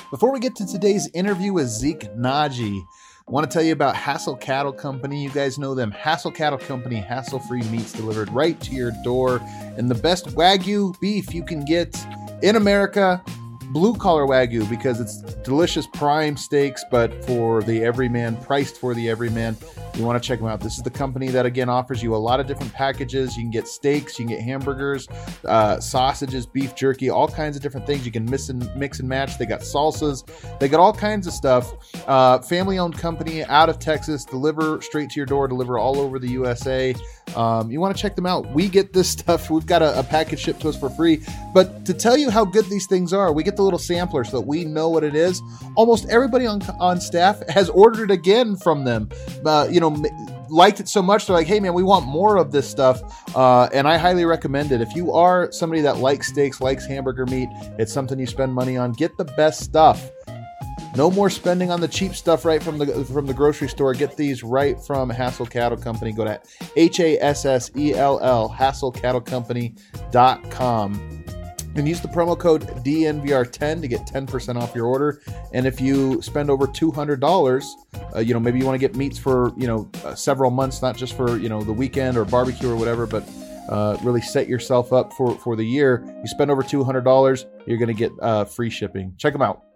Before we get to today's interview with Zeke Nnaji, I want to tell you about Hassel Cattle Company. You guys know them. Hassel Cattle Company, hassle-free meats delivered right to your door. And the best Wagyu beef you can get in America, blue-collar Wagyu, because it's delicious prime steaks, but for the everyman, priced for the everyman. You want to check them out. This is the company that, again, offers you a lot of different packages. You can get steaks, you can get hamburgers, sausages, beef jerky, all kinds of different things. You can mix and match. They got salsas. They got all kinds of stuff. Family-owned company out of Texas. Deliver straight to your door. Deliver all over the USA. You want to check them out. We get this stuff. We've got a package shipped to us for free. But to tell you how good these things are, we get the little sampler so that we know what it is. Almost everybody on staff has ordered again from them. Liked it so much, they're like, hey man, we want more of this stuff. And I highly recommend it. If you are somebody that likes steaks, likes hamburger meat, it's something you spend money on, get the best stuff. No more spending on the cheap stuff right from the grocery store. Get these right from Hassel Cattle Company. Go to HASSELL, HassellCattleCompany.com. And use the promo code DNVR10 to get 10% off your order. And if you spend over $200, maybe you want to get meats for, several months, not just for, the weekend or barbecue or whatever, but really set yourself up for the year. You spend over $200, you're going to get free shipping. Check them out.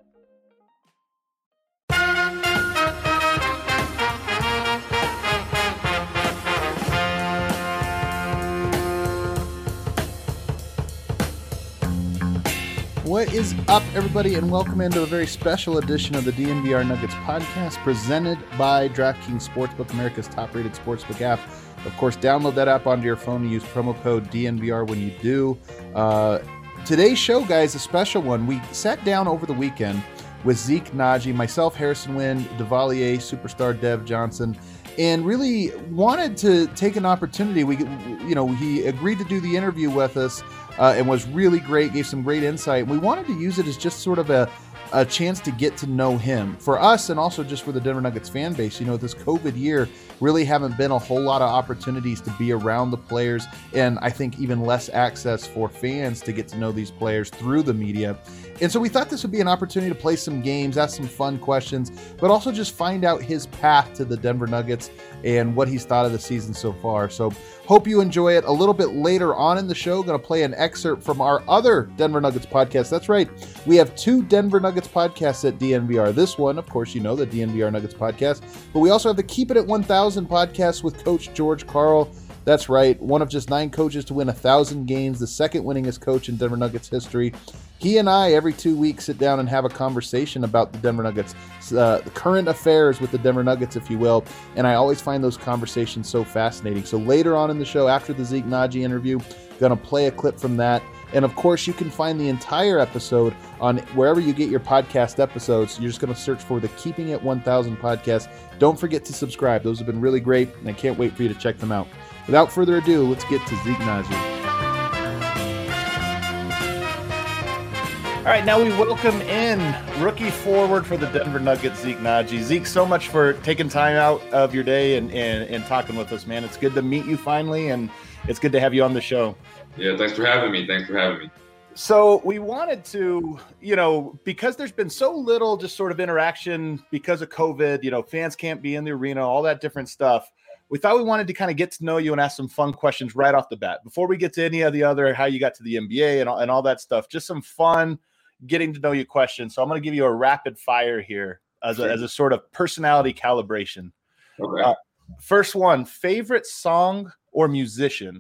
What is up, everybody, and welcome into a very special edition of the DNVR Nuggets podcast presented by DraftKings Sportsbook, America's top-rated sportsbook app. Of course, download that app onto your phone and use promo code DNVR when you do. Today's show, guys, a special one. We sat down over the weekend with Zeke Nnaji, myself, Harrison Wind, Devalier, superstar Dev Johnson, and really wanted to take an opportunity. He agreed to do the interview with us. And was really great, gave some great insight. We wanted to use it as just sort of a chance to get to know him. For us, and also just for the Denver Nuggets fan base, this COVID year really haven't been a whole lot of opportunities to be around the players, and I think even less access for fans to get to know these players through the media. And so we thought this would be an opportunity to play some games, ask some fun questions, but also just find out his path to the Denver Nuggets and what he's thought of the season so far. So hope you enjoy it. A little bit later on in the show, going to play an excerpt from our other Denver Nuggets podcast. That's right. We have two Denver Nuggets podcasts at DNVR. This one, of course, the DNVR Nuggets podcast, but we also have the Keep It at 1000 podcast with Coach George Karl. That's right. One of just 9 coaches to win 1,000 games, the second winningest coach in Denver Nuggets history. He and I, every 2 weeks, sit down and have a conversation about the Denver Nuggets, the current affairs with the Denver Nuggets, if you will. And I always find those conversations so fascinating. So later on in the show, after the Zeke Nnaji interview, going to play a clip from that. And of course, you can find the entire episode on wherever you get your podcast episodes. You're just going to search for the Keeping It 1000 podcast. Don't forget to subscribe. Those have been really great, and I can't wait for you to check them out. Without further ado, let's get to Zeke Nnaji. All right, now we welcome in rookie forward for the Denver Nuggets, Zeke Nnaji. Zeke, so much for taking time out of your day and talking with us, man. It's good to meet you finally, and it's good to have you on the show. Yeah, thanks for having me. So we wanted to, because there's been so little just sort of interaction because of COVID, fans can't be in the arena, all that different stuff. We thought we wanted to kind of get to know you and ask some fun questions right off the bat. Before we get to any of the other, how you got to the NBA and all that stuff, just some fun getting to know you questions. So I'm going to give you a rapid fire here as a sort of personality calibration. Okay. First one, favorite song or musician?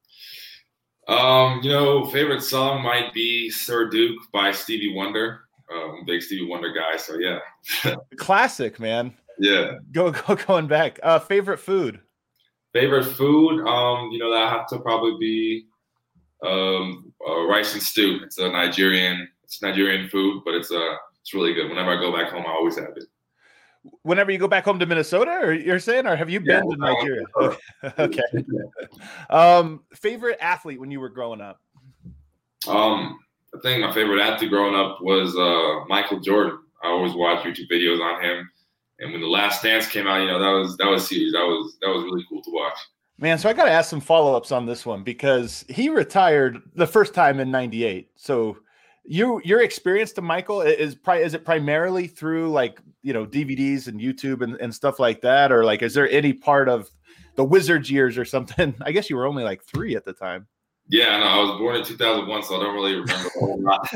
Favorite song might be Sir Duke by Stevie Wonder. I'm a big Stevie Wonder guy, so yeah. Classic, man. Yeah. Going back. Favorite food? Favorite food? That have to probably be rice and stew. It's Nigerian food, but it's really good. Whenever I go back home, I always have it. Whenever you go back home to Minnesota, or you're saying, or have you been to Nigeria? Okay. Favorite athlete when you were growing up? I think my favorite athlete growing up was Michael Jordan. I always watch YouTube videos on him, and when The Last Dance came out, that was huge. That was really cool to watch. Man, so I got to ask some follow-ups on this one because he retired the first time in '98. So Your experience to Michael is it primarily through like, DVDs and YouTube and stuff like that, or like is there any part of the Wizards years or something? I guess you were only like 3 at the time. Yeah, no, I was born in 2001, so I don't really remember a whole lot.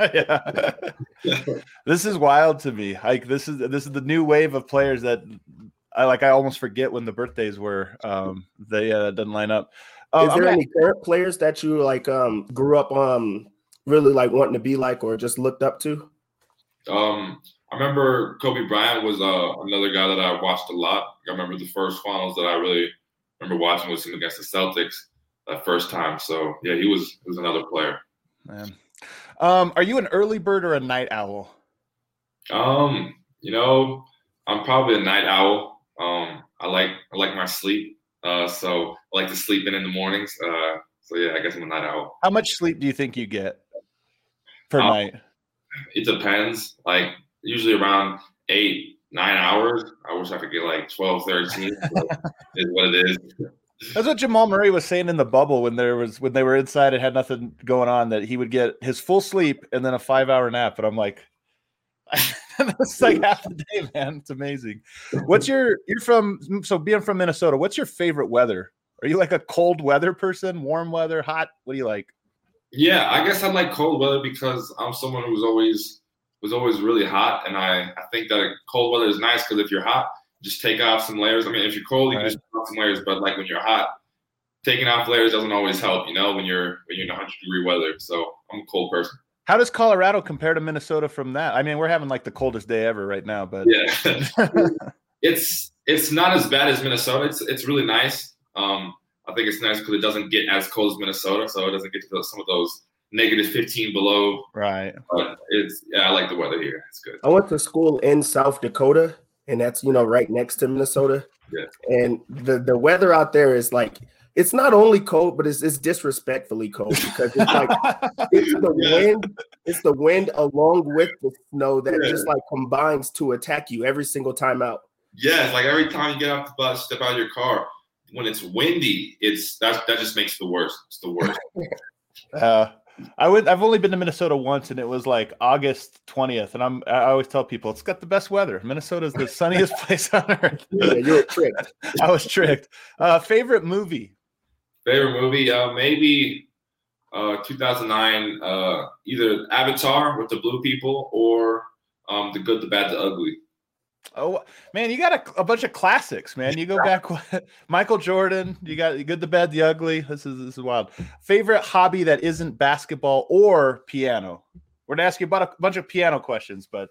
Yeah. This is wild to me. Like this is the new wave of players that I almost forget when the birthdays were. They doesn't line up. Is there any current players that you like grew up really like wanting to be like or just looked up to? I remember Kobe Bryant was another guy that I watched a lot. I remember the first finals that I really remember watching was him against the Celtics that first time. So yeah, he was another player. Man. Are you an early bird or a night owl? I'm probably a night owl. I like my sleep. So I like to sleep in the mornings. So yeah, I guess I'm a night owl. How much sleep do you think you get per night? It depends. Like usually around 8-9 hours. I wish I could get like 12, 13. Is what it is. That's what Jamal Murray was saying in the bubble when they were inside and had nothing going on, that he would get his full sleep and then a 5-hour nap. But I'm like, that's like half the day, man. It's amazing. Being from Minnesota, what's your favorite weather? Are you like a cold weather person, warm weather, hot? What do you like? Yeah, I guess I like cold weather because I'm someone who was always really hot, and I think that cold weather is nice because if you're hot, just take off some layers. I mean, if you're cold, you can just put off some layers, but like when you're hot, taking off layers doesn't always help, when you're in 100-degree weather. So I'm a cold person. How does Colorado compare to Minnesota from that? I mean, we're having like the coldest day ever right now, but yeah, it's not as bad as Minnesota. It's really nice. I think it's nice because it doesn't get as cold as Minnesota, so it doesn't get to some of those negative 15 below. Right. But I like the weather here. It's good. I went to school in South Dakota, and that's right next to Minnesota. Yeah. And the weather out there is like, it's not only cold, but it's disrespectfully cold because it's like it's the wind along with the snow that just like combines to attack you every single time out. Yeah, it's like every time you get off the bus, step out of your car, when it's windy, that just makes it the worst. It's the worst. I've only been to Minnesota once, and it was like August 20th, and I always tell people it's got the best weather. Minnesota is the sunniest place on earth. Yeah, you were tricked. I was tricked. Favorite movie? Maybe 2009, either Avatar with the blue people or The Good, the Bad, the Ugly. Oh man, you got a bunch of classics, man. You go back, Michael Jordan. You got Good, the Bad, the Ugly. This is wild. Favorite hobby that isn't basketball or piano? We're gonna ask you about a bunch of piano questions, but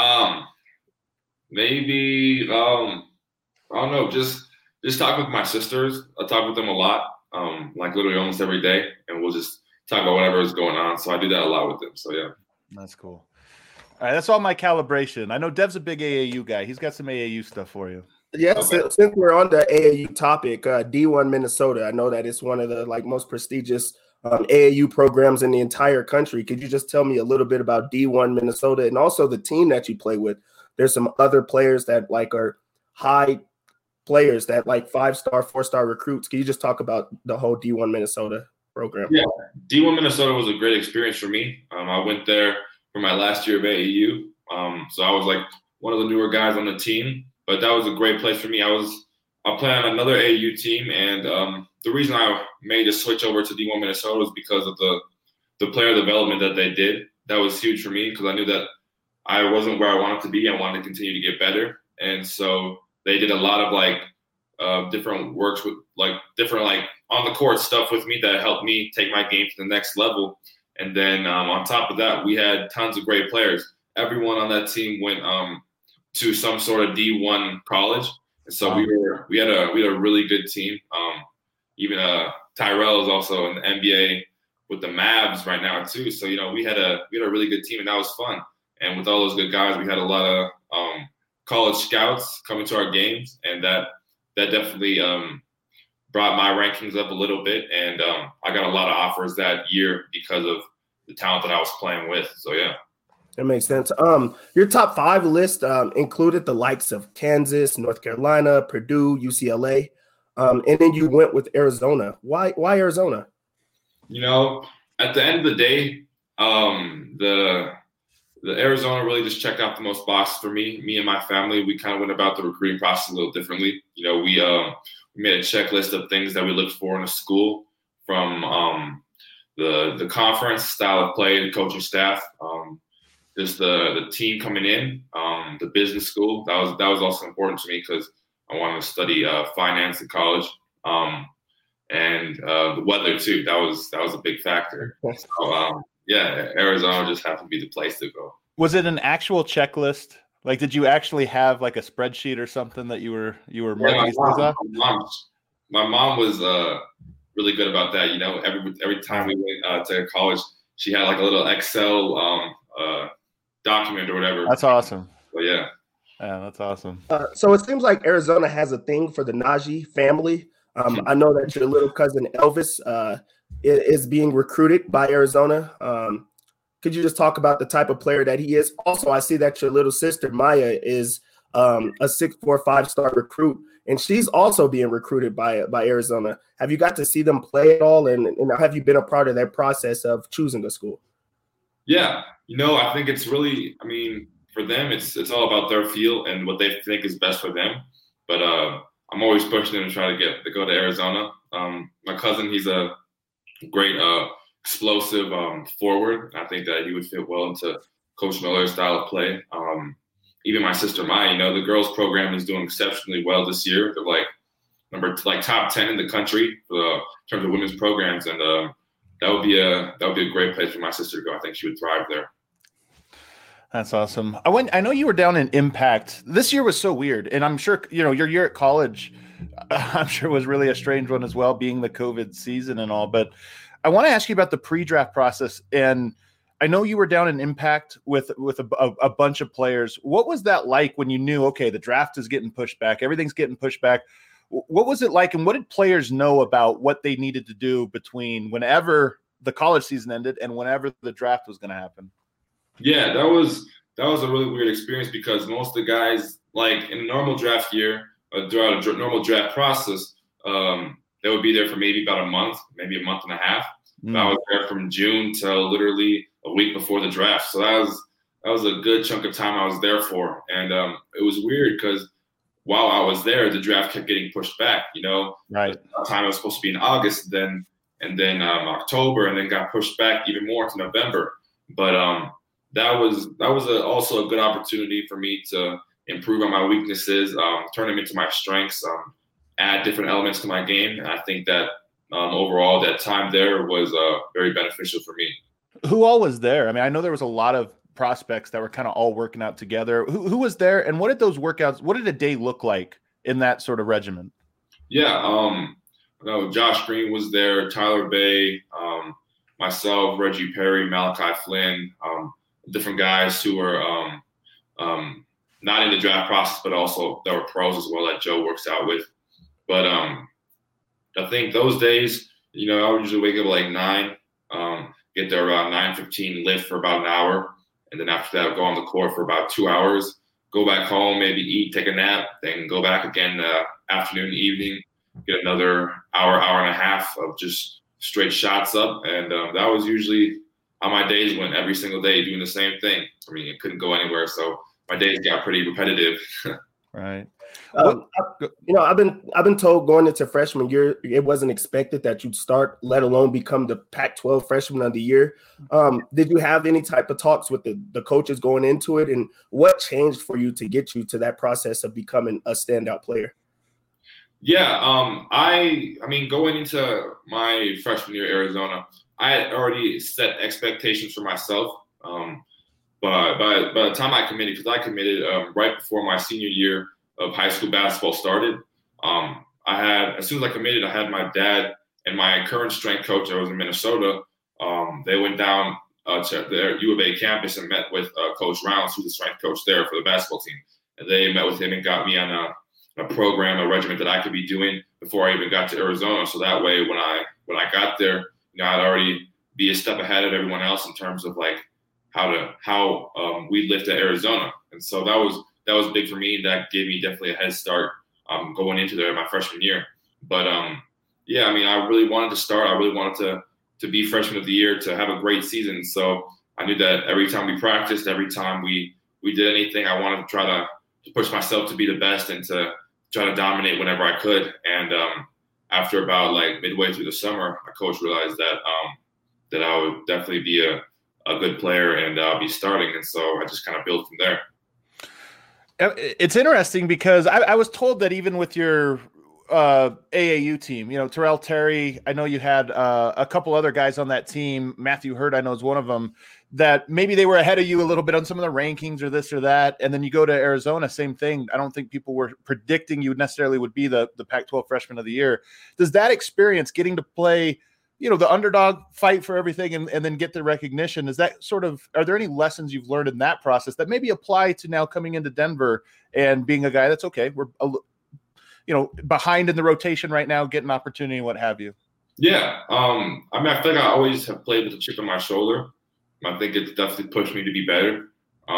maybe I don't know. Just talk with my sisters. I talk with them a lot, like literally almost every day, and we'll just talk about whatever is going on. So I do that a lot with them. So yeah, that's cool. All right, that's all my calibration. I know Dev's a big AAU guy. He's got some AAU stuff for you. Yeah, okay. Since we're on the AAU topic, D1 Minnesota, I know that it's one of the most prestigious AAU programs in the entire country. Could you just tell me a little bit about D1 Minnesota and also the team that you play with? There's some other players that are high players that 5-star, 4-star recruits. Can you just talk about the whole D1 Minnesota program? Yeah, D1 Minnesota was a great experience for me. I went there for my last year of AAU. So I was one of the newer guys on the team, but that was a great place for me. I play on another AAU team, and the reason I made a switch over to D1 Minnesota was because of the player development that they did. That was huge for me because I knew that I wasn't where I wanted to be. I wanted to continue to get better. And so they did a lot of different works with different on the court stuff with me that helped me take my game to the next level. And then on top of that, we had tons of great players. Everyone on that team went to some sort of D1 college, and so we had a really good team. Even Tyrell is also in the NBA with the Mavs right now too. So we had a really good team, and that was fun. And with all those good guys, we had a lot of college scouts coming to our games, and that definitely brought my rankings up a little bit, and I got a lot of offers that year because of the talent that I was playing with. So yeah, that makes sense. Your top 5 list included the likes of Kansas, North Carolina, Purdue, UCLA, and then you went with Arizona. Why Arizona? At the end of the day, the Arizona really just checked out the most boxes for me. Me and my family, we kind of went about the recruiting process a little differently. You know, we made a checklist of things that we looked for in a school, from the conference, style of play, the coaching staff, just the team coming in, the business school. That was also important to me because I wanted to study finance in college, and the weather too. That was a big factor. So, yeah, Arizona just happened to be the place to go. Was it an actual checklist? Like, did you actually have like a spreadsheet or something that you were marking these things off? My mom was really good about that. You know, every time we went to college, she had like a little Excel document or whatever. That's awesome. So yeah. Yeah, that's awesome. So it seems like Arizona has a thing for the Najee family. I know that your little cousin Elvis is being recruited by Arizona. Could you just talk about the type of player that he is? Also, I see that your little sister Maya is a 6'4", 5-star recruit, and she's also being recruited by Arizona. Have you got to see them play at all, and have you been a part of that process of choosing the school? Yeah, you know, I think it's really, I mean, for them, it's all about their feel and what they think is best for them. But I'm always pushing them to try to go to Arizona. My cousin, he's a great explosive forward. I think that he would fit well into Coach Miller's style of play. Even my sister Maya, you know, the girls program is doing exceptionally well this year. They're top 10 in the country in terms of women's programs, and that would be a great place for my sister to go. I think she would thrive there. That's awesome. I know you were down in Impact. This year was so weird, and I'm sure your year at college, I'm sure was really a strange one as well, being the COVID season and all. But I want to ask you about the pre-draft process, and I know you were down in Impact with a bunch of players. What was that like when you knew, okay, the draft is getting pushed back, everything's getting pushed back? What was it like, and what did players know about what they needed to do between whenever the college season ended and whenever the draft was going to happen? Yeah, that was a really weird experience because most of the guys, like in a normal draft year, throughout a normal draft process, they would be there for maybe about a month, maybe a month and a half. Mm. I was there from June till literally a week before the draft. So that was a good chunk of time I was there for. And it was weird because while I was there, the draft kept getting pushed back, you know. Right. The time it was supposed to be in August, and then October, and then got pushed back even more to November. But that was also a good opportunity for me to improve on my weaknesses, turn them into my strengths, add different elements to my game. And I think that overall that time there was very beneficial for me. Who all was there? I mean, I know there was a lot of prospects that were kind of all working out together. Who was there, and what did those workouts, what did a day look like in that sort of regimen? Yeah, Josh Green was there, Tyler Bay, myself, Reggie Perry, Malachi Flynn, different guys who were not in the draft process, but also that were pros as well that Joe works out with. But I think those days, you know, I would usually wake up at like 9, get there around 9:15, lift for about an hour. And then after that, I'll go on the court for about 2 hours, go back home, maybe eat, take a nap, then go back again afternoon, evening, get another hour and a half of just straight shots up. And that was usually how my days went, every single day doing the same thing. I mean, it couldn't go anywhere. So my days got pretty repetitive. Right. I've been told going into freshman year, it wasn't expected that you'd start, let alone become the Pac-12 freshman of the year. Did you have any type of talks with the coaches going into it, and what changed for you to get you to that process of becoming a standout player? Yeah, I mean, going into my freshman year at Arizona, I had already set expectations for myself. But by the time I committed, because I committed right before my senior year of high school basketball started, as soon as I committed, I had my dad and my current strength coach that was in Minnesota. They went down to their U of A campus and met with Coach Rounds, who's the strength coach there for the basketball team. And they met with him and got me on a program, a regimen that I could be doing before I even got to Arizona. So that way, when I got there, you know, I'd already be a step ahead of everyone else in terms of like how we lived at Arizona. And so that was big for me. That gave me definitely a head start going into there my freshman year. But yeah, I mean, I really wanted to start. I really wanted to be freshman of the year, to have a great season. So I knew that every time we practiced, every time we did anything, I wanted to try to push myself to be the best and to try to dominate whenever I could. And after about like midway through the summer, my coach realized that that I would definitely be a good player and I'll be starting. And so I just kind of built from there. It's interesting because I was told that even with your AAU team, you know, Terrell Terry, I know you had a couple other guys on that team. Matthew Hurd, I know, is one of them, that maybe they were ahead of you a little bit on some of the rankings or this or that. And then you go to Arizona, same thing. I don't think people were predicting you necessarily would be the Pac-12 freshman of the year. Does that experience getting to play, you know, the underdog, fight for everything and then get the recognition, is that sort of, are there any lessons you've learned in that process that maybe apply to now coming into Denver and being a guy that's okay, we're behind in the rotation right now, get an opportunity and what have you? Yeah. I mean, I feel like I always have played with a chip on my shoulder. I think it's definitely pushed me to be better.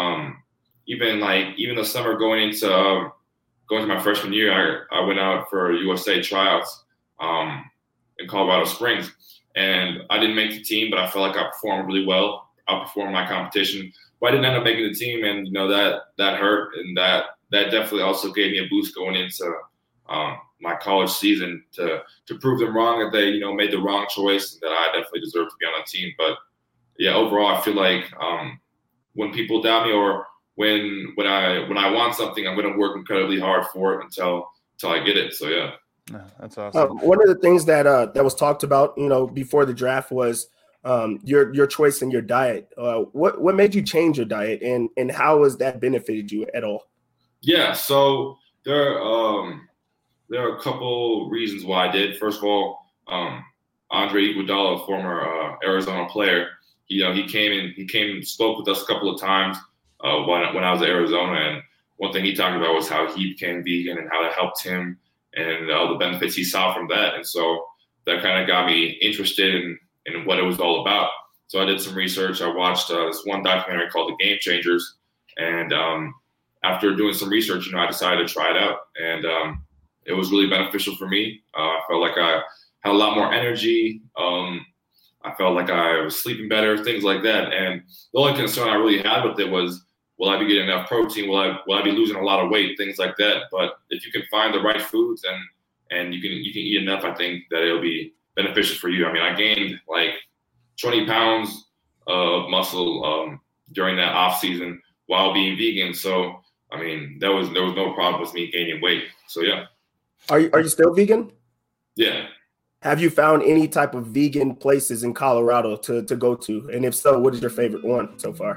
Even the summer going to my freshman year, I went out for USA tryouts in Colorado Springs, and I didn't make the team, but I felt like I performed really well, outperformed my competition. But I didn't end up making the team, and that hurt, and that definitely also gave me a boost going into my college season to prove them wrong, that they made the wrong choice, and that I definitely deserve to be on the team. But yeah, overall, I feel like when people doubt me or when I want something, I'm going to work incredibly hard for it until I get it. So yeah, that's awesome. One of the things that was talked about, before the draft was your choice in your diet. What made you change your diet, and how has that benefited you at all? Yeah, so there are a couple reasons why I did. First of all, Andre Iguodala, former Arizona player, he came and spoke with us a couple of times when I was at Arizona, and one thing he talked about was how he became vegan and how that helped him and all the benefits he saw from that. And so that kind of got me interested in what it was all about. So I did some research. I watched this one documentary called The Game Changers, and after doing some research, I decided to try it out, and it was really beneficial for me. I felt like I had a lot more energy. I felt like I was sleeping better, things like that. And the only concern I really had with it was, will I be getting enough protein? Will I be losing a lot of weight? Things like that. But if you can find the right foods and you can eat enough, I think that it'll be beneficial for you. I mean, I gained like 20 pounds of muscle during that off season while being vegan. So I mean, there was no problem with me gaining weight. So yeah. Are you still vegan? Yeah. Have you found any type of vegan places in Colorado to go to? And if so, what is your favorite one so far?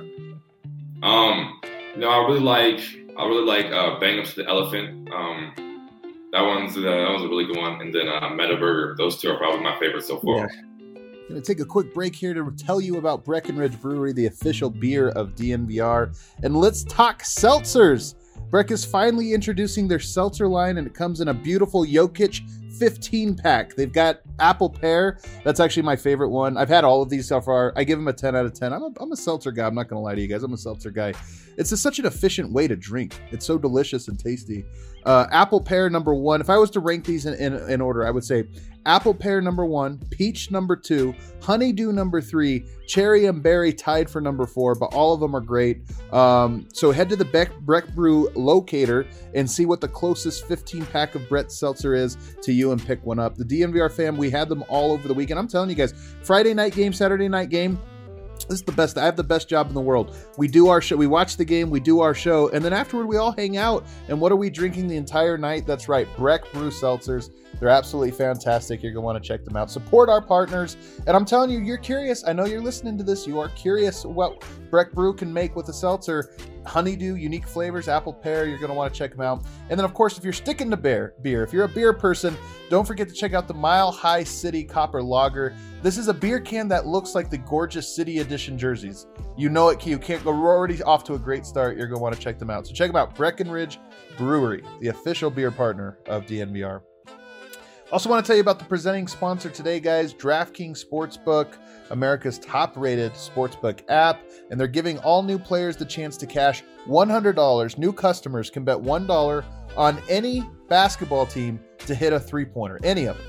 I really like Bang Up to the Elephant. That was a really good one. And then Meta Burger. Those two are probably my favorites so far. Yeah. Going to take a quick break here to tell you about Breckenridge Brewery, the official beer of DNVR. And let's talk seltzers. Breck is finally introducing their seltzer line, and it comes in a beautiful Jokic 15-pack. They've got apple pear. That's actually my favorite one. I've had all of these so far. I give them a 10 out of 10. I'm a seltzer guy. I'm not going to lie to you guys. I'm a seltzer guy. It's just such an efficient way to drink. It's so delicious and tasty. Apple pear number 1. If I was to rank these in order, I would say apple pear number 1, peach number 2, honeydew number 3, cherry and berry tied for number 4, but all of them are great. So head to the Breck Brew locator and see what the closest 15-pack of Brett Seltzer is to you and pick one up. The DNVR fam, we had them all over the weekend. I'm telling you guys, Friday night game, Saturday night game, this is the best. I have the best job in the world. We do our show. We watch the game. We do our show. And then afterward, we all hang out. And what are we drinking the entire night? That's right. Breck Brew Seltzers. They're absolutely fantastic. You're going to want to check them out. Support our partners. And I'm telling you, you're curious. I know you're listening to this. You are curious what Breck Brew can make with a seltzer. Honeydew, unique flavors, apple pear. You're going to want to check them out. And then, of course, if you're sticking to beer, if you're a beer person, don't forget to check out the Mile High City Copper Lager. This is a beer can that looks like the gorgeous City Edition jerseys. You know it. You can't go. We're already off to a great start. You're going to want to check them out. So check them out. Breckenridge Brewery, the official beer partner of DNVR. Also want to tell you about the presenting sponsor today, guys, DraftKings Sportsbook, America's top-rated sportsbook app, and they're giving all new players the chance to cash $100. New customers can bet $1 on any basketball team to hit a three-pointer, any of them.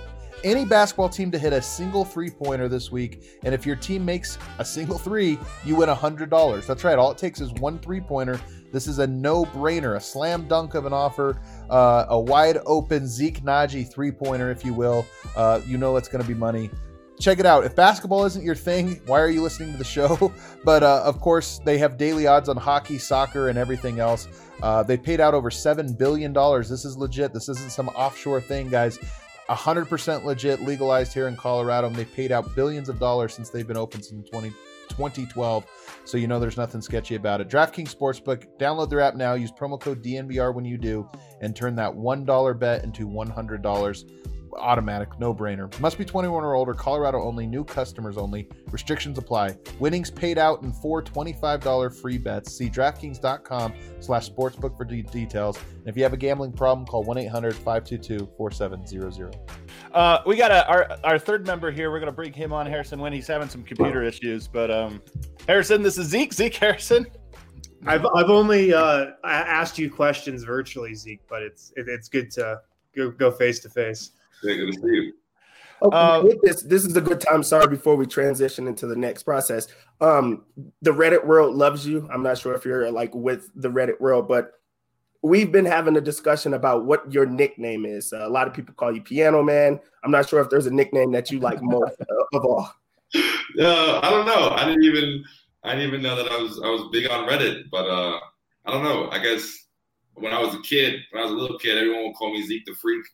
any basketball team to hit a single three-pointer this week, and if your team makes a single three, you win $100. That's right. All it takes is one three-pointer. This is a no-brainer, a slam dunk of an offer, a wide-open Zeke Naji three-pointer, if you will. You know it's going to be money. Check it out. If basketball isn't your thing, why are you listening to the show? But of course, they have daily odds on hockey, soccer, and everything else. They paid out over $7 billion. This is legit. This isn't some offshore thing, guys. 100% legit, legalized here in Colorado, and they paid out billions of dollars since they've been open since 2012. So you know there's nothing sketchy about it. DraftKings Sportsbook, download their app now. Use promo code DNVR when you do, and turn that $1 bet into $100. Automatic, no-brainer. Must be 21 or older, Colorado only, new customers only. Restrictions apply. Winnings paid out in 4 $25 free bets. See DraftKings.com/sportsbook for details. And if you have a gambling problem, call 1-800-522-4700. We got our third member here. We're going to bring him on, Harrison Wind. He's having some computer issues, but Harrison, this is Zeke. Zeke Harrison. I've only asked you questions virtually, Zeke, but it's good to go face to face. Yeah, good to see you. Okay, this is a good time. Sorry, before we transition into the next process. The Reddit world loves you. I'm not sure if you're like with the Reddit world, but we've been having a discussion about what your nickname is. A lot of people call you Piano Man. I'm not sure if there's a nickname that you like more of all. I don't know. I didn't even know that I was big on Reddit, but I don't know. I guess when I was a little kid, everyone would call me Zeke the Freak.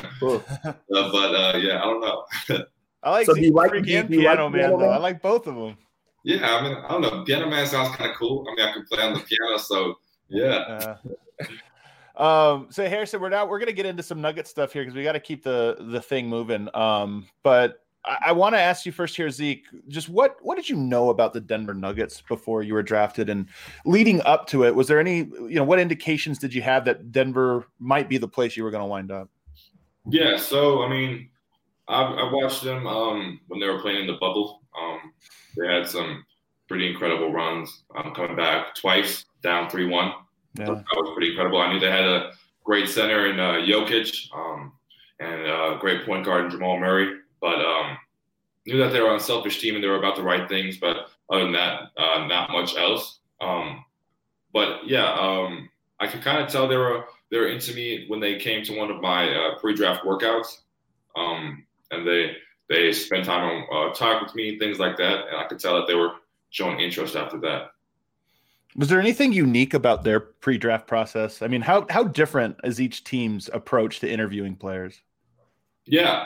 Yeah, I don't know. I like so Zeke the Freak and Piano Man, though. I like both of them. Yeah, I mean, I don't know. Piano Man sounds kind of cool. I mean, I can play on the piano, so yeah. So Harrison, we're going to get into some Nugget stuff here because we got to keep the thing moving. But I want to ask you first here, Zeke, just what did you know about the Denver Nuggets before you were drafted and leading up to it? Was there any, what indications did you have that Denver might be the place you were going to wind up? Yeah. So, I mean, I watched them when they were playing in the bubble. They had some pretty incredible runs, coming back twice, down 3-1. Yeah. That was pretty incredible. I knew they had a great center in Jokic and a great point guard in Jamal Murray. But knew that they were an unselfish team and they were about the right things. But other than that, not much else. But yeah, I could kind of tell they were into me when they came to one of my pre-draft workouts, and they spent time on talk with me, things like that, and I could tell that they were showing interest after that. Was there anything unique about their pre-draft process? I mean, how different is each team's approach to interviewing players? Yeah.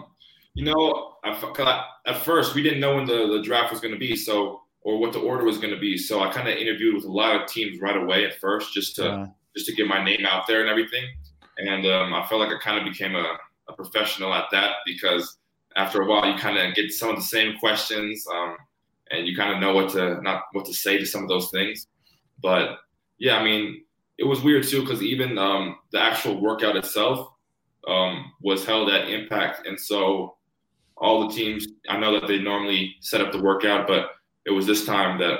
At first we didn't know when the draft was going to be, or what the order was going to be. So I kind of interviewed with a lot of teams right away at first, just to get my name out there and everything. And I felt like I kind of became a professional at that, because after a while you kind of get some of the same questions, and you kind of know what to say to some of those things. But yeah, I mean, it was weird too, because even the actual workout itself was held at Impact, and so all the teams, I know that they normally set up the workout, but it was this time that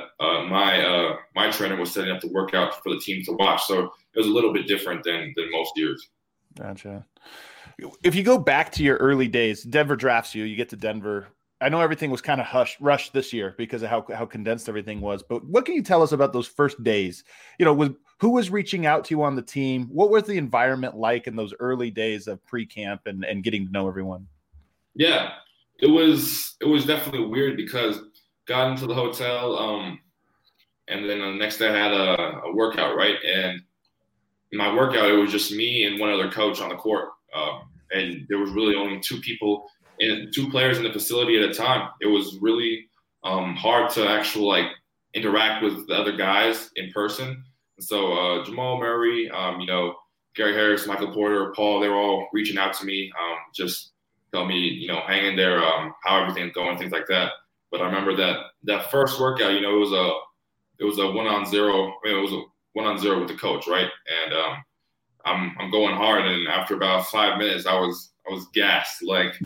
my trainer was setting up the workout for the team to watch. So it was a little bit different than most years. Gotcha. If you go back to your early days, Denver drafts you, you get to Denver. I know everything was kind of rushed this year because of how condensed everything was, but what can you tell us about those first days? Who was reaching out to you on the team? What was the environment like in those early days of pre-camp and getting to know everyone? Yeah, it was definitely weird because got into the hotel, and then the next day I had a workout, right? And in my workout, it was just me and one other coach on the court, and there was really only two players in the facility at a time. It was really hard to actually interact with the other guys in person. And so Jamal Murray, Gary Harris, Michael Porter, Paul, they were all reaching out to me, just tell me, hang in there, how everything's going, things like that. But I remember that first workout, it was a 1-on-0. It was a 1-on-0 with the coach, right? And I'm going hard, and after about 5 minutes, I was gassed.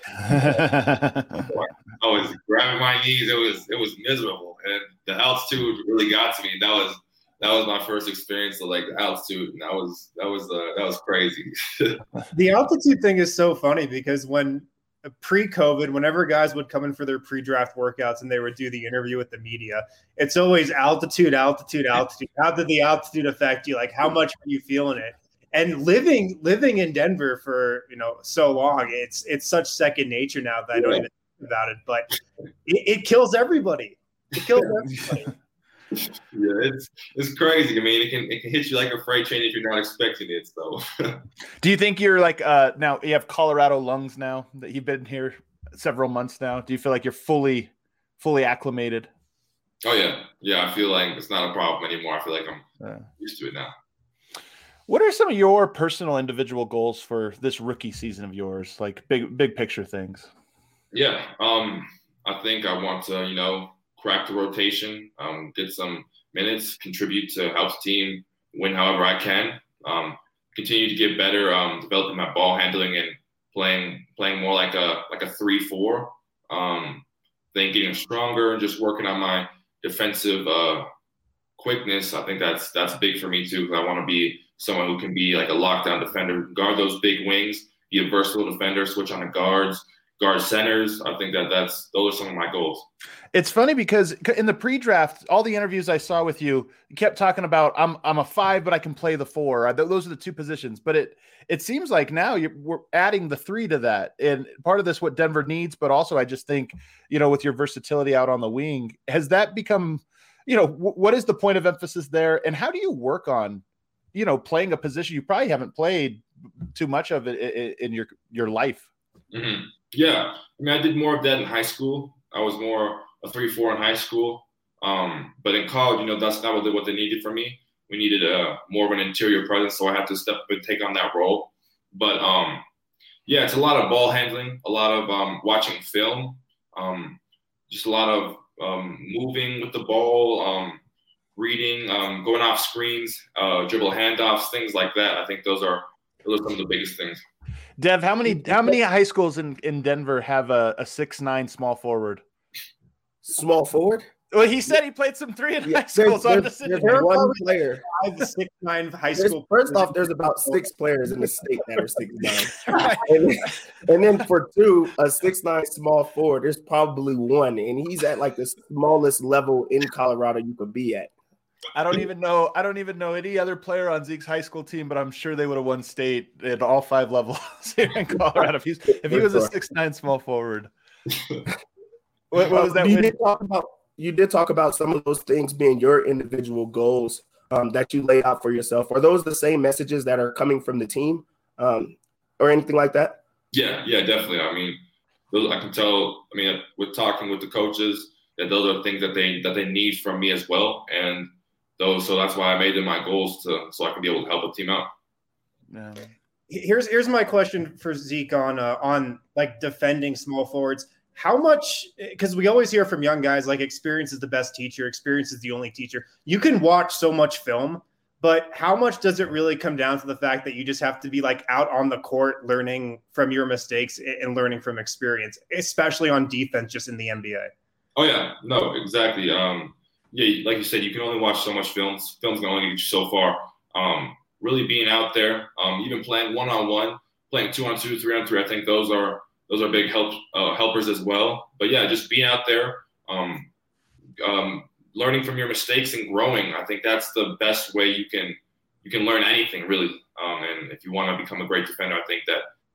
I was grabbing my knees. It was miserable, and the altitude really got to me. That was my first experience of the altitude, and that was crazy. The altitude thing is so funny because when pre-COVID, whenever guys would come in for their pre-draft workouts and they would do the interview with the media, it's always altitude, altitude, altitude. How did the altitude affect you? Like, how much are you feeling it? And living in Denver for so long, it's such second nature now that I don't even think about it. But it kills everybody. It kills everybody. Yeah, it's crazy. I mean, it can hit you like a freight train if you're not expecting it. So, do you think you're like now you have Colorado lungs now that you've been here several months now? Do you feel like you're fully acclimated? Oh yeah. I feel like it's not a problem anymore. I feel like I'm used to it now. What are some of your personal individual goals for this rookie season of yours? Like big picture things. Yeah, I think I want to crack the rotation, get some minutes, contribute to help the team win however I can, continue to get better, developing my ball handling and playing more like a 3-4. Then getting stronger and just working on my defensive quickness. I think that's big for me too, because I want to be someone who can be like a lockdown defender, guard those big wings, be a versatile defender, switch on the guard centers. I think those are some of my goals. It's funny because in the pre-draft, all the interviews I saw with you kept talking about I'm a 5, but I can play the 4. Those are the 2 positions. But it seems like now we're adding the 3 to that, and part of this what Denver needs, but also I just think with your versatility out on the wing, has that become what is the point of emphasis there, and how do you work on playing a position you probably haven't played too much of it in your life? Mm-hmm. Yeah, I mean, I did more of that in high school. I was more a 3-4 in high school, but in college, that's not what they needed from me. We needed more of an interior presence, so I had to step up and take on that role. But yeah, it's a lot of ball handling, a lot of watching film, just a lot of moving with the ball, reading, going off screens, dribble handoffs, things like that. I think those are some of the biggest things. Dev, how many high schools in Denver have a 6'9" small forward? Small forward? Well, he said he played some 3 in high school. There's one player. 6'9" high school. First off, there's about 6 players in the state that are 6'9". and then for 2, a 6'9" small forward, there's probably 1, and he's at like the smallest level in Colorado you could be at. I don't even know any other player on Zeke's high school team, but I'm sure they would have won state at all 5 levels here in Colorado if he was a 6'9" small forward. What was that? You did talk about some of those things being your individual goals that you laid out for yourself. Are those the same messages that are coming from the team or anything like that? Yeah, definitely. I mean, I can tell. I mean, with talking with the coaches, that those are things that they need from me as well, and so that's why I made them my goals so I can be able to help a team out. Yeah. Here's my question for Zeke on like defending small forwards. How much, because we always hear from young guys, like experience is the best teacher, experience is the only teacher. You can watch so much film, but how much does it really come down to the fact that you just have to be like out on the court learning from your mistakes and learning from experience, especially on defense, just in the NBA? Oh yeah, no, exactly. Yeah, like you said, you can only watch so much films. Films can only get you so far. Really being out there, even playing 1-on-1, playing 2-on-2, 3-on-3, I think those are big helpers as well. But yeah, just being out there, learning from your mistakes and growing. I think that's the best way you can learn anything really. And if you want to become a great defender, I think that.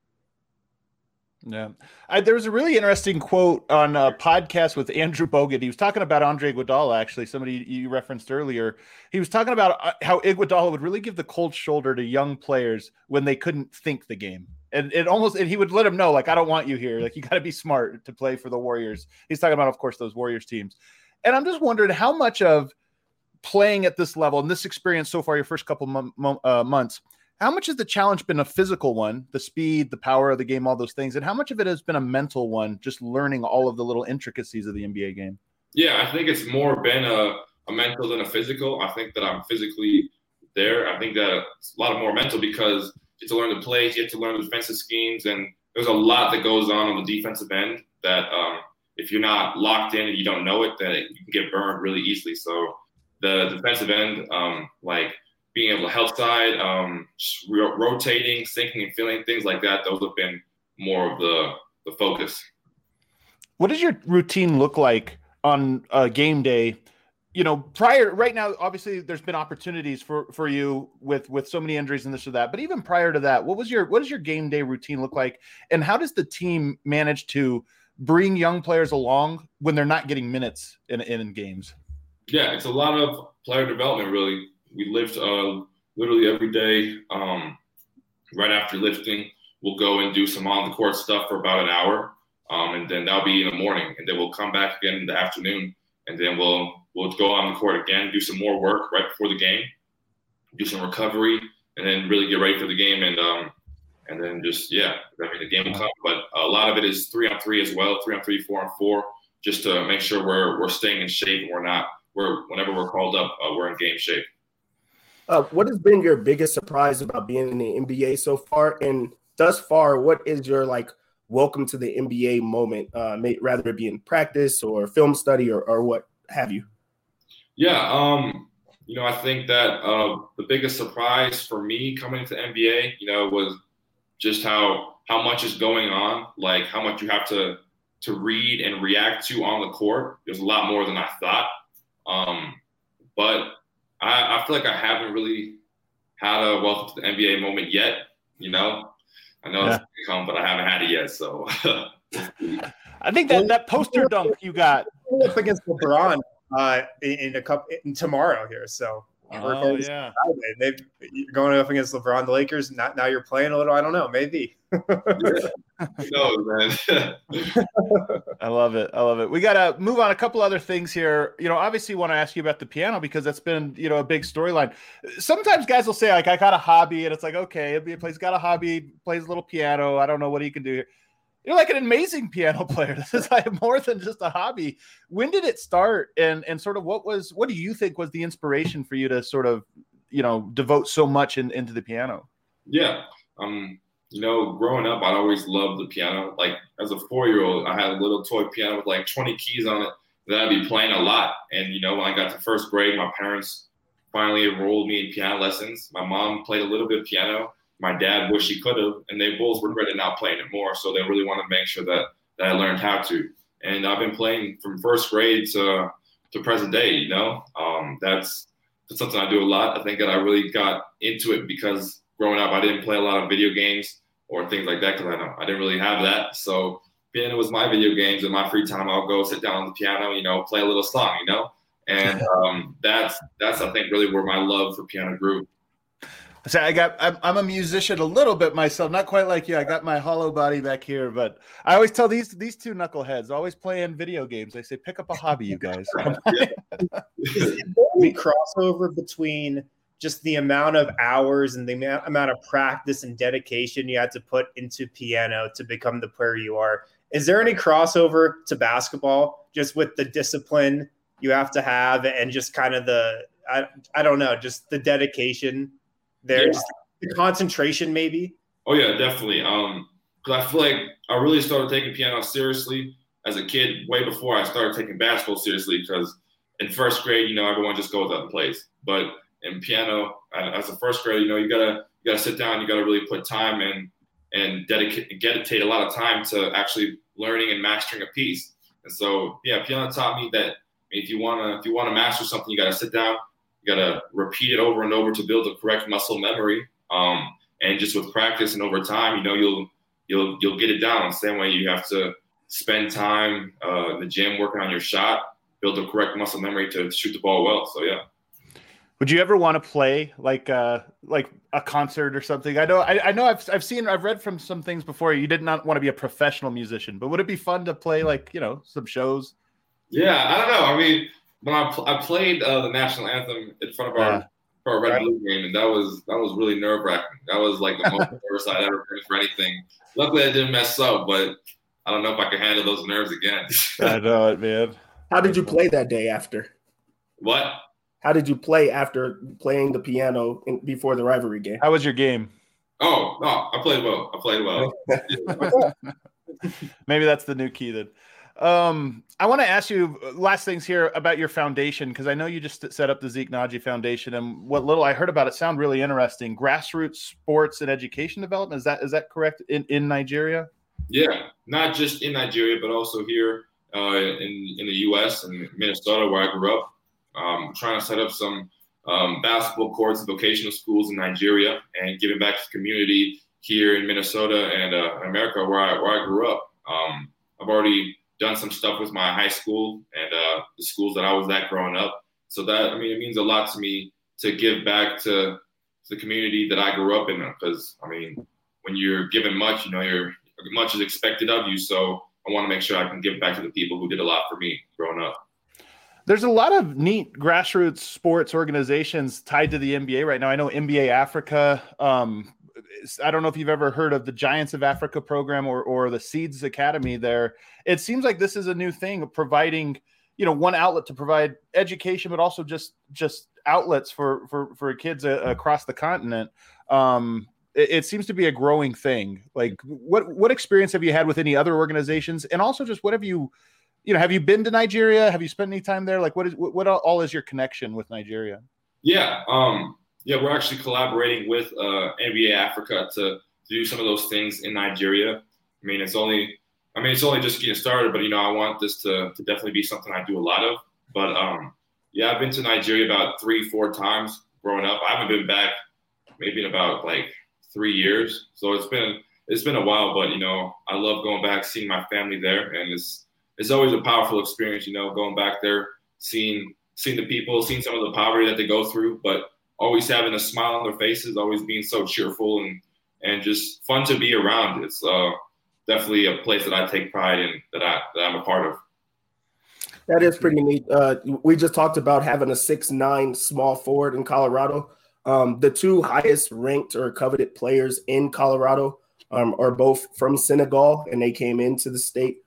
Yeah. There was a really interesting quote on a podcast with Andrew Bogut. He was talking about Andre Iguodala, actually, somebody you referenced earlier. He was talking about how Iguodala would really give the cold shoulder to young players when they couldn't think the game. And he would let them know, like, I don't want you here. Like, you got to be smart to play for the Warriors. He's talking about, of course, those Warriors teams. And I'm just wondering how much of playing at this level and this experience so far, your first couple months, how much has the challenge been a physical one, the speed, the power of the game, all those things, and how much of it has been a mental one, just learning all of the little intricacies of the NBA game? Yeah, I think it's more been a mental than a physical. I think that I'm physically there. I think that it's a lot more mental because you have to learn the plays, you have to learn the defensive schemes, and there's a lot that goes on the defensive end that if you're not locked in and you don't know it, then you can get burned really easily. So the defensive end, like being able to help side, rotating, sinking and feeling, things like that, those have been more of the the focus. What does your routine look like on a game day? Right now, obviously there's been opportunities for you with so many injuries and this or that, but even prior to that, what does your game day routine look like? And how does the team manage to bring young players along when they're not getting minutes in games? Yeah, it's a lot of player development, really. We lift literally every day. Right after lifting, we'll go and do some on the court stuff for about an hour. And then that'll be in the morning. And then we'll come back again in the afternoon. And then we'll go on the court again, do some more work right before the game, do some recovery, and then really get ready for the game. And then just, the game will come. But a lot of it is 3-on-3 as well, 3-on-3, 4-on-4, just to make sure we're staying in shape and whenever we're called up, we're in game shape. What has been your biggest surprise about being in the NBA so far? And thus far, what is your welcome to the NBA moment, rather it be in practice or film study or what have you? Yeah, I think that the biggest surprise for me coming into the NBA, was just how much is going on, like how much you have to read and react to on the court. There's a lot more than I thought. But I feel like I haven't really had a welcome to the NBA moment yet. I know it's going to come, but I haven't had it yet. So I think that poster dunk you got up against LeBron in tomorrow here. So yeah, you're going up against LeBron, the Lakers. Now you're playing a little. I don't know, maybe. No, man. I love it. We got to move on a couple other things here. Obviously want to ask you about the piano because that's been, a big storyline. Sometimes guys will say like, I got a hobby, and it's like, okay, he's got a hobby, plays a little piano. I don't know what he can do here. You're like an amazing piano player. This is like more than just a hobby. When did it start? And sort of what do you think was the inspiration for you to sort of, devote so much into the piano? Yeah. Growing up, I'd always loved the piano. Like as a 4-year-old, I had a little toy piano with like 20 keys on it that I'd be playing a lot. And, when I got to first grade, my parents finally enrolled me in piano lessons. My mom played a little bit of piano. My dad wished he could have, and they both regretted not playing it more. So they really wanted to make sure that I learned how to. And I've been playing from first grade to present day, That's something I do a lot. I think that I really got into it because growing up, I didn't play a lot of video games or things like that because I didn't really have that. So piano was my video games. In my free time, I'll go sit down on the piano, play a little song, And that's I think really where my love for piano grew. So I'm a musician a little bit myself, not quite like you. I got my hollow body back here, but I always tell these two knuckleheads always playing video games. I say, pick up a hobby, you guys. Is there any crossover between just the amount of hours and the amount of practice and dedication you had to put into piano to become the player you are? Is there any crossover to basketball, just with the discipline you have to have and just kind of I don't know, just the dedication there, just the concentration maybe? Oh yeah, definitely. Because I feel like I really started taking piano seriously as a kid way before I started taking basketball seriously, because in first grade, everyone just goes out and plays. But in piano, as a first grader, you gotta sit down, you gotta really put time in and dedicate a lot of time to actually learning and mastering a piece. And so, piano taught me that if you wanna master something, you gotta sit down, you gotta repeat it over and over to build the correct muscle memory. And just with practice and over time, you'll get it down. The same way you have to spend time in the gym working on your shot, build the correct muscle memory to shoot the ball well. So yeah. Would you ever want to play like a concert or something? I know I've read from some things before. You did not want to be a professional musician, but would it be fun to play some shows? Yeah, I don't know. I mean, when I played the national anthem in front of our Red Blue game, and that was really nerve wracking. That was like the most nervous I'd ever been for anything. Luckily, I didn't mess up, but I don't know if I could handle those nerves again. I know it, man. How did you play that day after? What? How did you play after playing the piano before the rivalry game? How was your game? Oh, no, I played well. Maybe that's the new key then. I want to ask you last things here about your foundation, because I know you just set up the Zeke Naji Foundation, and what little I heard about it sound really interesting. Grassroots sports and education development. Is that correct in Nigeria? Yeah, not just in Nigeria, but also here in the U.S. and Minnesota, where I grew up. Trying to set up some basketball courts and vocational schools in Nigeria, and giving back to the community here in Minnesota and America, where I grew up. I've already done some stuff with my high school and the schools that I was at growing up. So that, I mean, it means a lot to me to give back to the community that I grew up in, because, I mean, when you're given much, much is expected of you. So I want to make sure I can give back to the people who did a lot for me growing up. There's a lot of neat grassroots sports organizations tied to the NBA right now. I know NBA Africa. I don't know if you've ever heard of the Giants of Africa program or the Seeds Academy there. It seems like this is a new thing, providing, one outlet to provide education, but also just outlets for kids across the continent. It seems to be a growing thing. Like, what experience have you had with any other organizations? And also just what have you been to Nigeria? Have you spent any time there? Like, what all is your connection with Nigeria? Yeah. We're actually collaborating with NBA Africa to do some of those things in Nigeria. I mean, it's only just getting started, but I want this to definitely be something I do a lot of. But I've been to Nigeria about 3-4 times growing up. I haven't been back maybe in about like 3 years. So it's been a while, but I love going back, seeing my family there, and it's always a powerful experience, going back there, seeing the people, seeing some of the poverty that they go through, but always having a smile on their faces, always being so cheerful and just fun to be around. It's definitely a place that I take pride in, that I'm a part of. That is pretty neat. We just talked about having a 6'9" small forward in Colorado. The two highest ranked or coveted players in Colorado are both from Senegal, and they came into the state.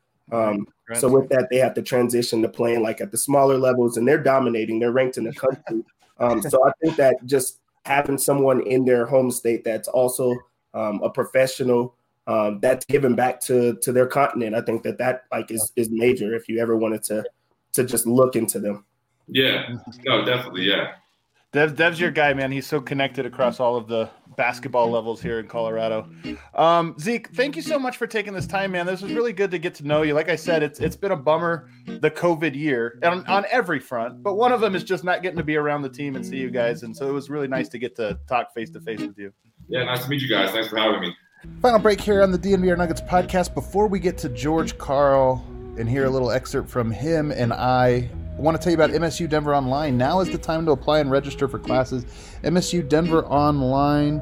So with that, they have to transition to playing like at the smaller levels, and they're dominating. They're ranked in the country. So I think that just having someone in their home state that's also a professional, that's giving back to their continent, I think that like is major if you ever wanted to just look into them. Yeah, no, definitely, yeah. Dev's your guy, man. He's so connected across all of the basketball levels here in Colorado. Zeke, thank you so much for taking this time, man. This was really good to get to know you. Like I said, it's been a bummer, the COVID year, on every front. But one of them is just not getting to be around the team and see you guys. And so it was really nice to get to talk face-to-face with you. Yeah, nice to meet you guys. Thanks for having me. Final break here on the DNVR Nuggets podcast. Before we get to George Karl and hear a little excerpt from him and I want to tell you about MSU Denver Online. Now is the time to apply and register for classes. MSU Denver Online,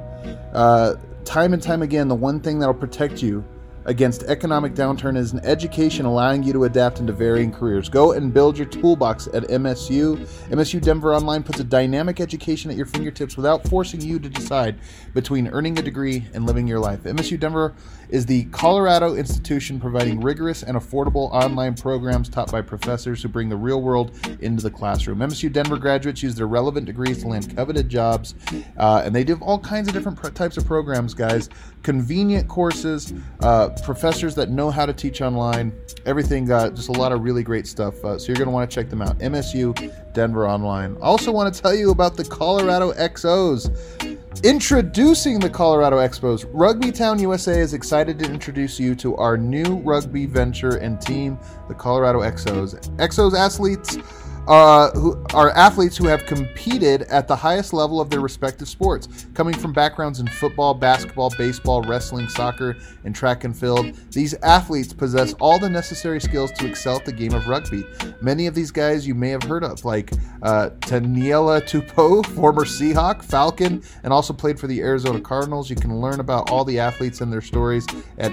time and time again, the one thing that will protect you against economic downturn is an education allowing you to adapt into varying careers. Go and build your toolbox at MSU. MSU Denver Online puts a dynamic education at your fingertips without forcing you to decide between earning a degree and living your life. MSU Denver is the Colorado institution providing rigorous and affordable online programs taught by professors who bring the real world into the classroom. MSU Denver graduates use their relevant degrees to land coveted jobs, and they do all kinds of different types of programs, guys. Convenient courses, professors that know how to teach online, everything, just a lot of really great stuff. So you're going to want to check them out. MSU Denver Online. Also want to tell you about the Colorado XOs. Introducing the Colorado Expos, Rugby Town USA is excited to introduce you to our new rugby venture and team, the Colorado XOs. XOs athletes who are athletes who have competed at the highest level of their respective sports, coming from backgrounds in football, basketball, baseball, wrestling, soccer, and track and field. These athletes possess all the necessary skills to excel at the game of rugby. Many of these guys you may have heard of, like Taniela Tupou, former Seahawk, Falcon, and also played for the Arizona Cardinals. You can learn about all the athletes and their stories at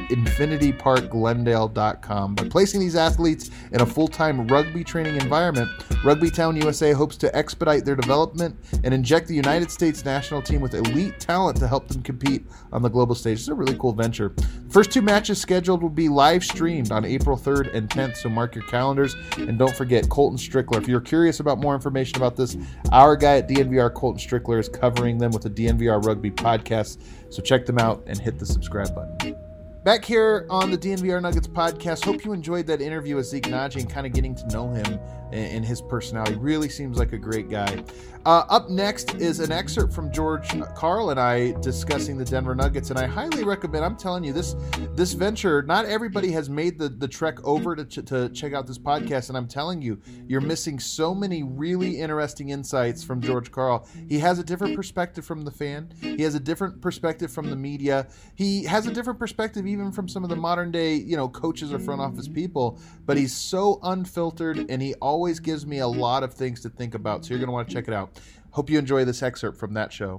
infinityparkglendale.com. By placing these athletes in a full-time rugby training environment, Rugby Town USA hopes to expedite their development and inject the United States national team with elite talent to help them compete on the global stage. It's a really cool venture. First two matches scheduled will be live streamed on April 3rd and 10th, so mark your calendars. And don't forget, Colton Strickler. If you're curious about more information about this, our guy at DNVR, Colton Strickler, is covering them with a DNVR Rugby podcast, so check them out and hit the subscribe button. Back here on the DNVR Nuggets podcast, hope you enjoyed that interview with Zeke Nnaji and kind of getting to know him and his personality. Really seems like a great guy. Up next is an excerpt from George Karl and I discussing the Denver Nuggets, and I highly recommend. I'm telling you, this venture, not everybody has made the trek over to check out this podcast, and I'm telling you, you're missing so many really interesting insights from George Karl. He has a different perspective from the fan. He has a different perspective from the media. He has a different perspective even from some of the modern day, coaches or front office people, but he's so unfiltered, and he always gives me a lot of things to think about. So you're going to want to check it out. Hope you enjoy this excerpt from that show.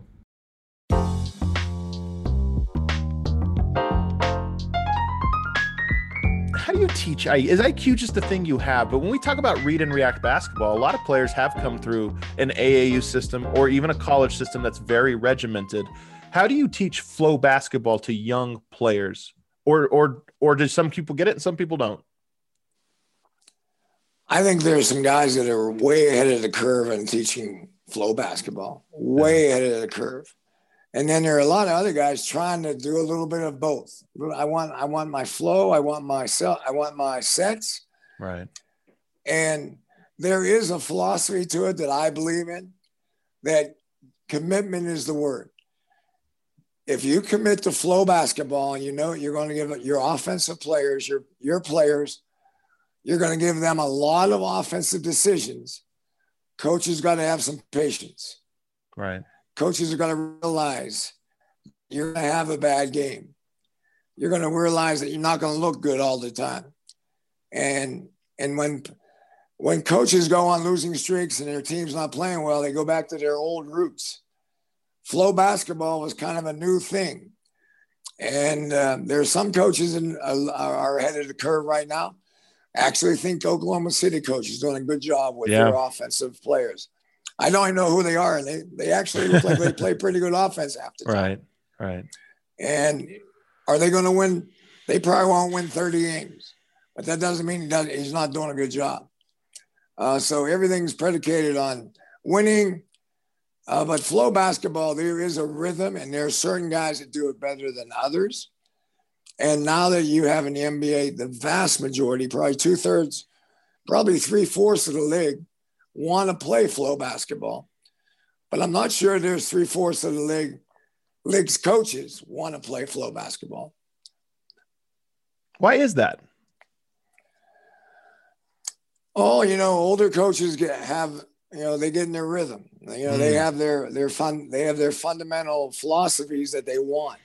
How do you teach? Is IQ just a thing you have? But when we talk about read and react basketball, a lot of players have come through an AAU system or even a college system that's very regimented. How do you teach flow basketball to young players? Or do some people get it and some people don't? I think there's some guys that are way ahead of the curve in teaching flow basketball, way ahead of the curve. And then there are a lot of other guys trying to do a little bit of both. I want my flow. I want my sets. Right. And there is a philosophy to it that I believe in, that commitment is the word. If you commit to flow basketball and you're going to give your offensive players, your players, you're going to give them a lot of offensive decisions. Coaches got to have some patience. Right. Coaches are going to realize you're going to have a bad game. You're going to realize that you're not going to look good all the time. And when coaches go on losing streaks and their team's not playing well, they go back to their old roots. Flow basketball was kind of a new thing. And there are some coaches are ahead of the curve right now. Actually think Oklahoma City coach is doing a good job with their offensive players. I don't even know who they are, and they actually look like they play pretty good offense half the time. Right. And are they going to win? They probably won't win 30 games, but that doesn't mean he's not doing a good job. So everything's predicated on winning. But flow basketball, there is a rhythm, and there are certain guys that do it better than others. And now that you have in the NBA, the vast majority, probably 2/3, probably 3/4 of the league want to play flow basketball. But I'm not sure there's 3/4 of the league's coaches want to play flow basketball. Why is that? Oh, older coaches they get in their rhythm. They have their fundamental philosophies that they want.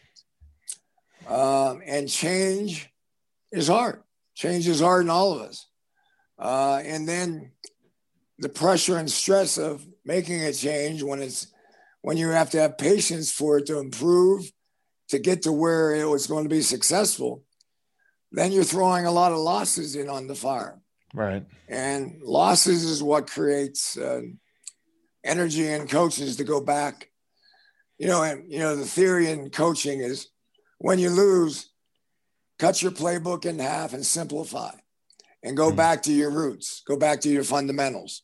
And change is hard. Change is hard in all of us. And then the pressure and stress of making a change when you have to have patience for it to improve, to get to where it was going to be successful, then you're throwing a lot of losses in on the fire. Right. And losses is what creates energy in coaches to go back. The theory in coaching is when you lose, cut your playbook in half and simplify and go back to your roots, go back to your fundamentals.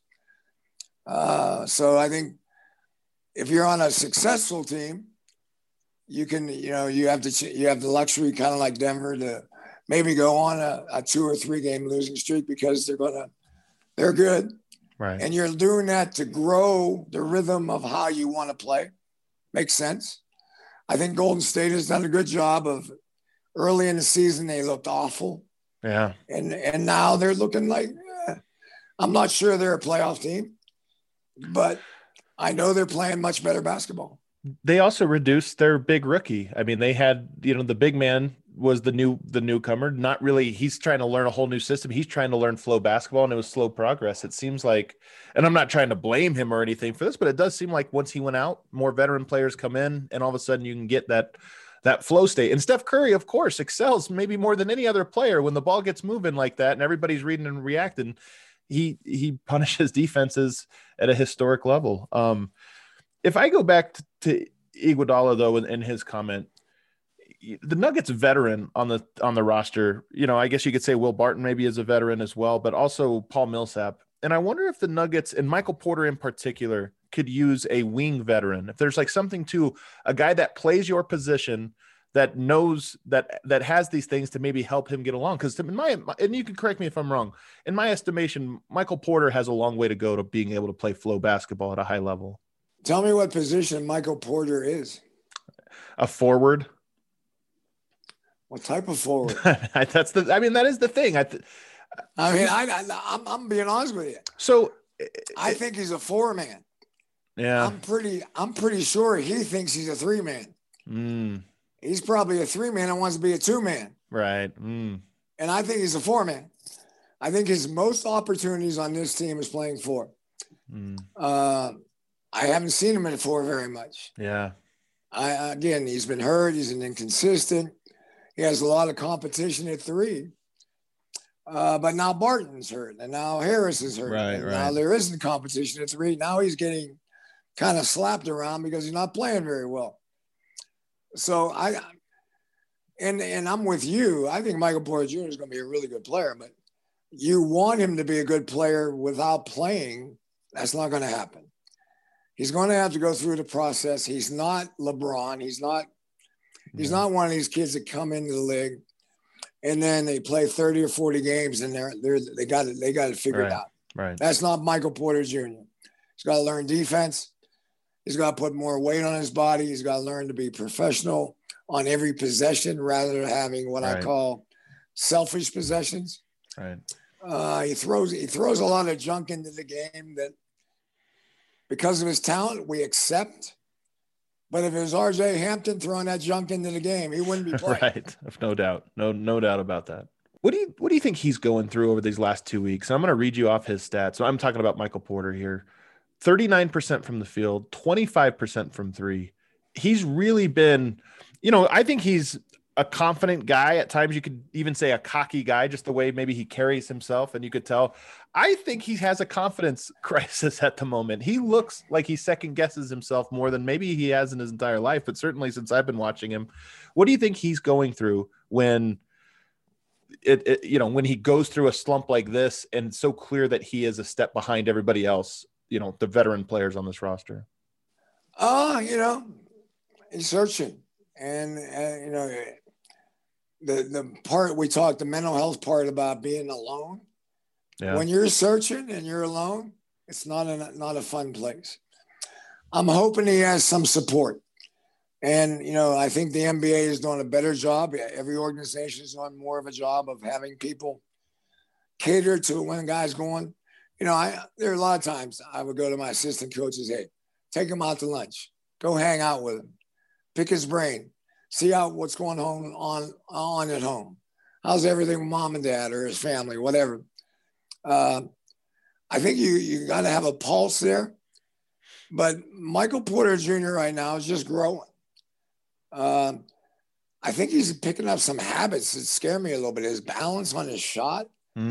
So I think if you're on a successful team, you can, you have the luxury, kind of like Denver, to maybe go on a 2 or 3 game losing streak because they're good. Right. And you're doing that to grow the rhythm of how you want to play. Makes sense. I think Golden State has done a good job of early in the season. They looked awful. Yeah. And now they're looking like, I'm not sure they're a playoff team, but I know they're playing much better basketball. They also reduced their big rookie. I mean, they had, the big man was the newcomer. Not really. He's trying to learn a whole new system. He's trying to learn flow basketball, and it was slow progress. It seems like, and I'm not trying to blame him or anything for this, but it does seem like once he went out, more veteran players come in, and all of a sudden you can get that flow state. And Steph Curry, of course, excels maybe more than any other player when the ball gets moving like that and everybody's reading and reacting. He punishes defenses at a historic level. If I go back to Iguodala, though, in his comment, the Nuggets veteran on the roster, I guess you could say Will Barton maybe is a veteran as well, but also Paul Millsap. And I wonder if the Nuggets, and Michael Porter in particular, could use a wing veteran. If there's like something to a guy that plays your position that knows that has these things to maybe help him get along. Because in my, and you can correct me if I'm wrong, in my estimation, Michael Porter has a long way to go to being able to play flow basketball at a high level. Tell me what position Michael Porter is. A forward. What type of forward? That is the thing. I'm being honest with you. So I think he's a 4-man. Yeah. I'm pretty sure he thinks he's a 3-man. He's probably a 3-man and wants to be a 2-man. Right. And I think he's a 4-man. I think his most opportunities on this team is playing 4. I haven't seen him in 4 very much. Yeah. Again, he's been hurt. He's an inconsistent. He has a lot of competition at 3. But now Barton's hurt, and now Harris is hurt. Right. Now there isn't competition at 3. Now he's getting kind of slapped around because he's not playing very well. So and I'm with you. I think Michael Porter Jr. is going to be a really good player, but you want him to be a good player without playing. That's not going to happen. He's going to have to go through the process. He's not LeBron. He's not one of these kids that come into the league and then they play 30 or 40 games and they got it figured out. Right. That's not Michael Porter Jr. He's got to learn defense. He's got to put more weight on his body. He's got to learn to be professional on every possession rather than having what I call selfish possessions. Right. He throws a lot of junk into the game that because of his talent, we accept. But if it was RJ Hampton throwing that junk into the game, he wouldn't be playing. Right. No doubt. No doubt about that. What do you think he's going through over these last 2 weeks? I'm going to read you off his stats. So I'm talking about Michael Porter here. 39% from the field, 25% from 3. He's really been, I think he's a confident guy. At times you could even say a cocky guy, just the way maybe he carries himself. And you could tell, I think he has a confidence crisis at the moment. He looks like he second guesses himself more than maybe he has in his entire life, but certainly since I've been watching him. What do you think he's going through when when he goes through a slump like this and it's so clear that he is a step behind everybody else, the veteran players on this roster? He's searching. And the part we talked, the mental health part about being alone. Yeah. When you're searching and you're alone, it's not a fun place. I'm hoping he has some support. And, I think the NBA is doing a better job. Every organization is doing more of a job of having people cater to when a guy's going. There are a lot of times I would go to my assistant coaches, hey, take him out to lunch, go hang out with him, pick his brain, see what's going on at home. How's everything with mom and dad or his family, whatever. I think you got to have a pulse there. But Michael Porter Jr. right now is just growing. I think he's picking up some habits that scare me a little bit. His balance on his shot.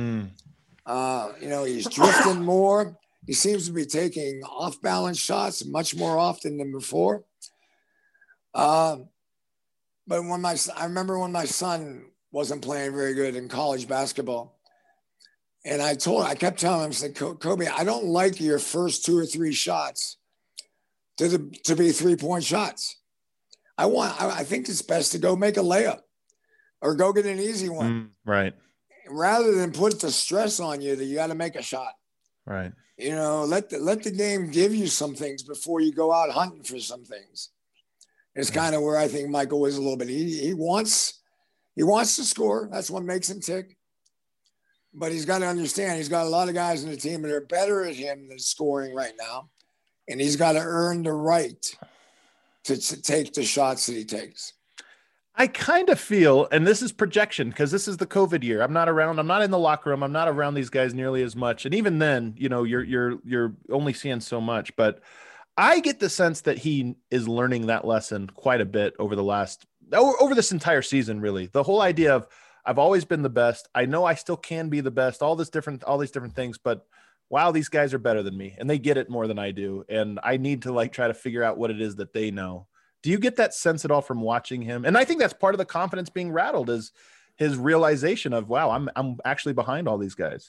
He's drifting more. He seems to be taking off-balance shots much more often than before. But I remember when my son wasn't playing very good in college basketball, and I kept telling him, I said, Kobe, I don't like your first 2 or 3 shots to be 3-point shots. I think it's best to go make a layup or go get an easy one. Right. Rather than put the stress on you that you got to make a shot. Right. Let the game give you some things before you go out hunting for some things. It's kind of where I think Michael is a little bit. He wants to score. That's what makes him tick. But he's got to understand he's got a lot of guys in the team that are better at him than scoring right now. And he's got to earn the right to take the shots that he takes. I kind of feel, and this is projection because this is the COVID year. I'm not around. I'm not in the locker room. I'm not around these guys nearly as much. And even then, you're only seeing so much. But I get the sense that he is learning that lesson quite a bit over this entire season. Really, the whole idea of I've always been the best. I know I still can be the best. All these different things, but wow, these guys are better than me, and they get it more than I do. And I need to try to figure out what it is that they know. Do you get that sense at all from watching him? And I think that's part of the confidence being rattled is his realization of, wow, I'm actually behind all these guys.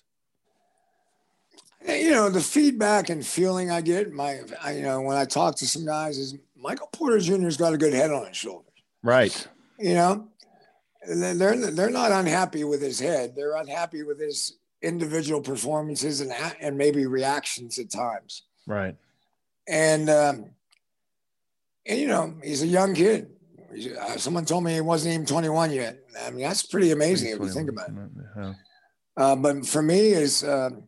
The feedback and feeling I get, when I talk to some guys is Michael Porter Jr.'s got a good head on his shoulders. Right. you know, they're not unhappy with his head. They're unhappy with his individual performances and maybe reactions at times. Right. And you know, he's a young kid. Someone told me he wasn't even 21 yet. I mean, that's pretty amazing if you think about it. Yeah. But for me, is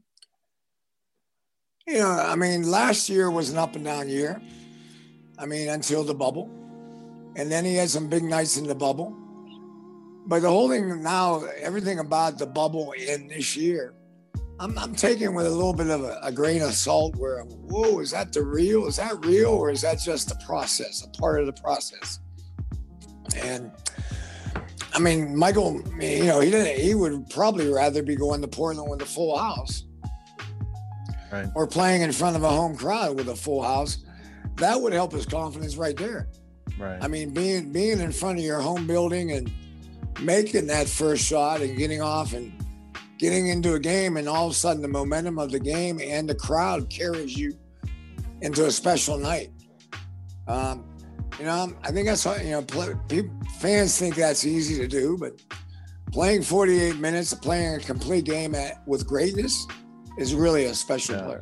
you know, I mean, last year was an up and down year. I mean, until the bubble, and then he had some big nights in the bubble. But the whole thing now, everything about the bubble in this year, I'm taking with a little bit of a grain of salt. Where, whoa, is that real? Is that real, or is that just a process, a part of the process? And I mean, Michael, you know, he would probably rather be going to Portland with a full house, right, or playing in front of a home crowd with a full house. That would help his confidence right there. Right. I mean, being in front of your home building and making that first shot and getting off and getting into a game, and all of a sudden the momentum of the game and the crowd carries you into a special night. You know, I think that's what, you know, fans think that's easy to do, but playing 48 minutes, playing a complete game with greatness is really a special player.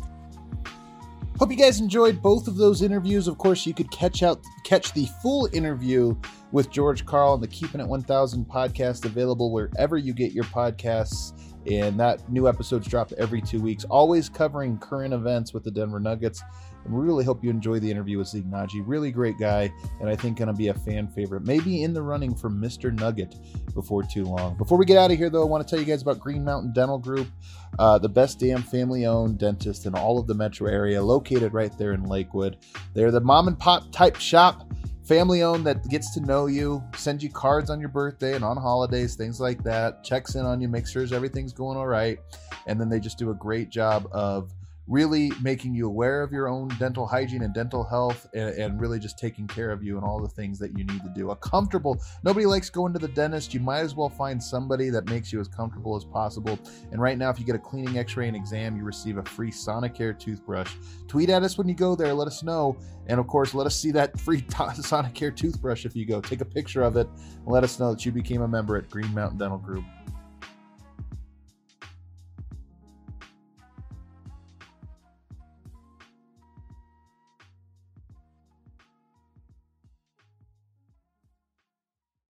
Hope you guys enjoyed both of those interviews. Of course, you could catch the full interview with George Karl on the Keeping It 1000 podcast, available wherever you get your podcasts. And that new episode's dropped every 2 weeks, always covering current events with the Denver Nuggets. And we really hope you enjoy the interview with Zeke Nnaji. Really great guy, and I think going to be a fan favorite. Maybe in the running for Mr. Nugget before too long. Before we get out of here, though, I want to tell you guys about Green Mountain Dental Group, the best damn family-owned dentist in all of the metro area, located right there in Lakewood. They're the mom-and-pop type shop, family-owned, that gets to know you, sends you cards on your birthday and on holidays, things like that, checks in on you, makes sure everything's going all right, and then they just do a great job of really making you aware of your own dental hygiene and dental health, and really just taking care of you and all the things that you need to do. Nobody likes going to the dentist. You might as well find somebody that makes you as comfortable as possible. And right now, if you get a cleaning, x-ray, and exam, you receive a free Sonicare toothbrush. Tweet at us when you go there. Let us know. And of course, let us see that free Sonicare toothbrush if you go. Take a picture of it and let us know that you became a member at Green Mountain Dental Group.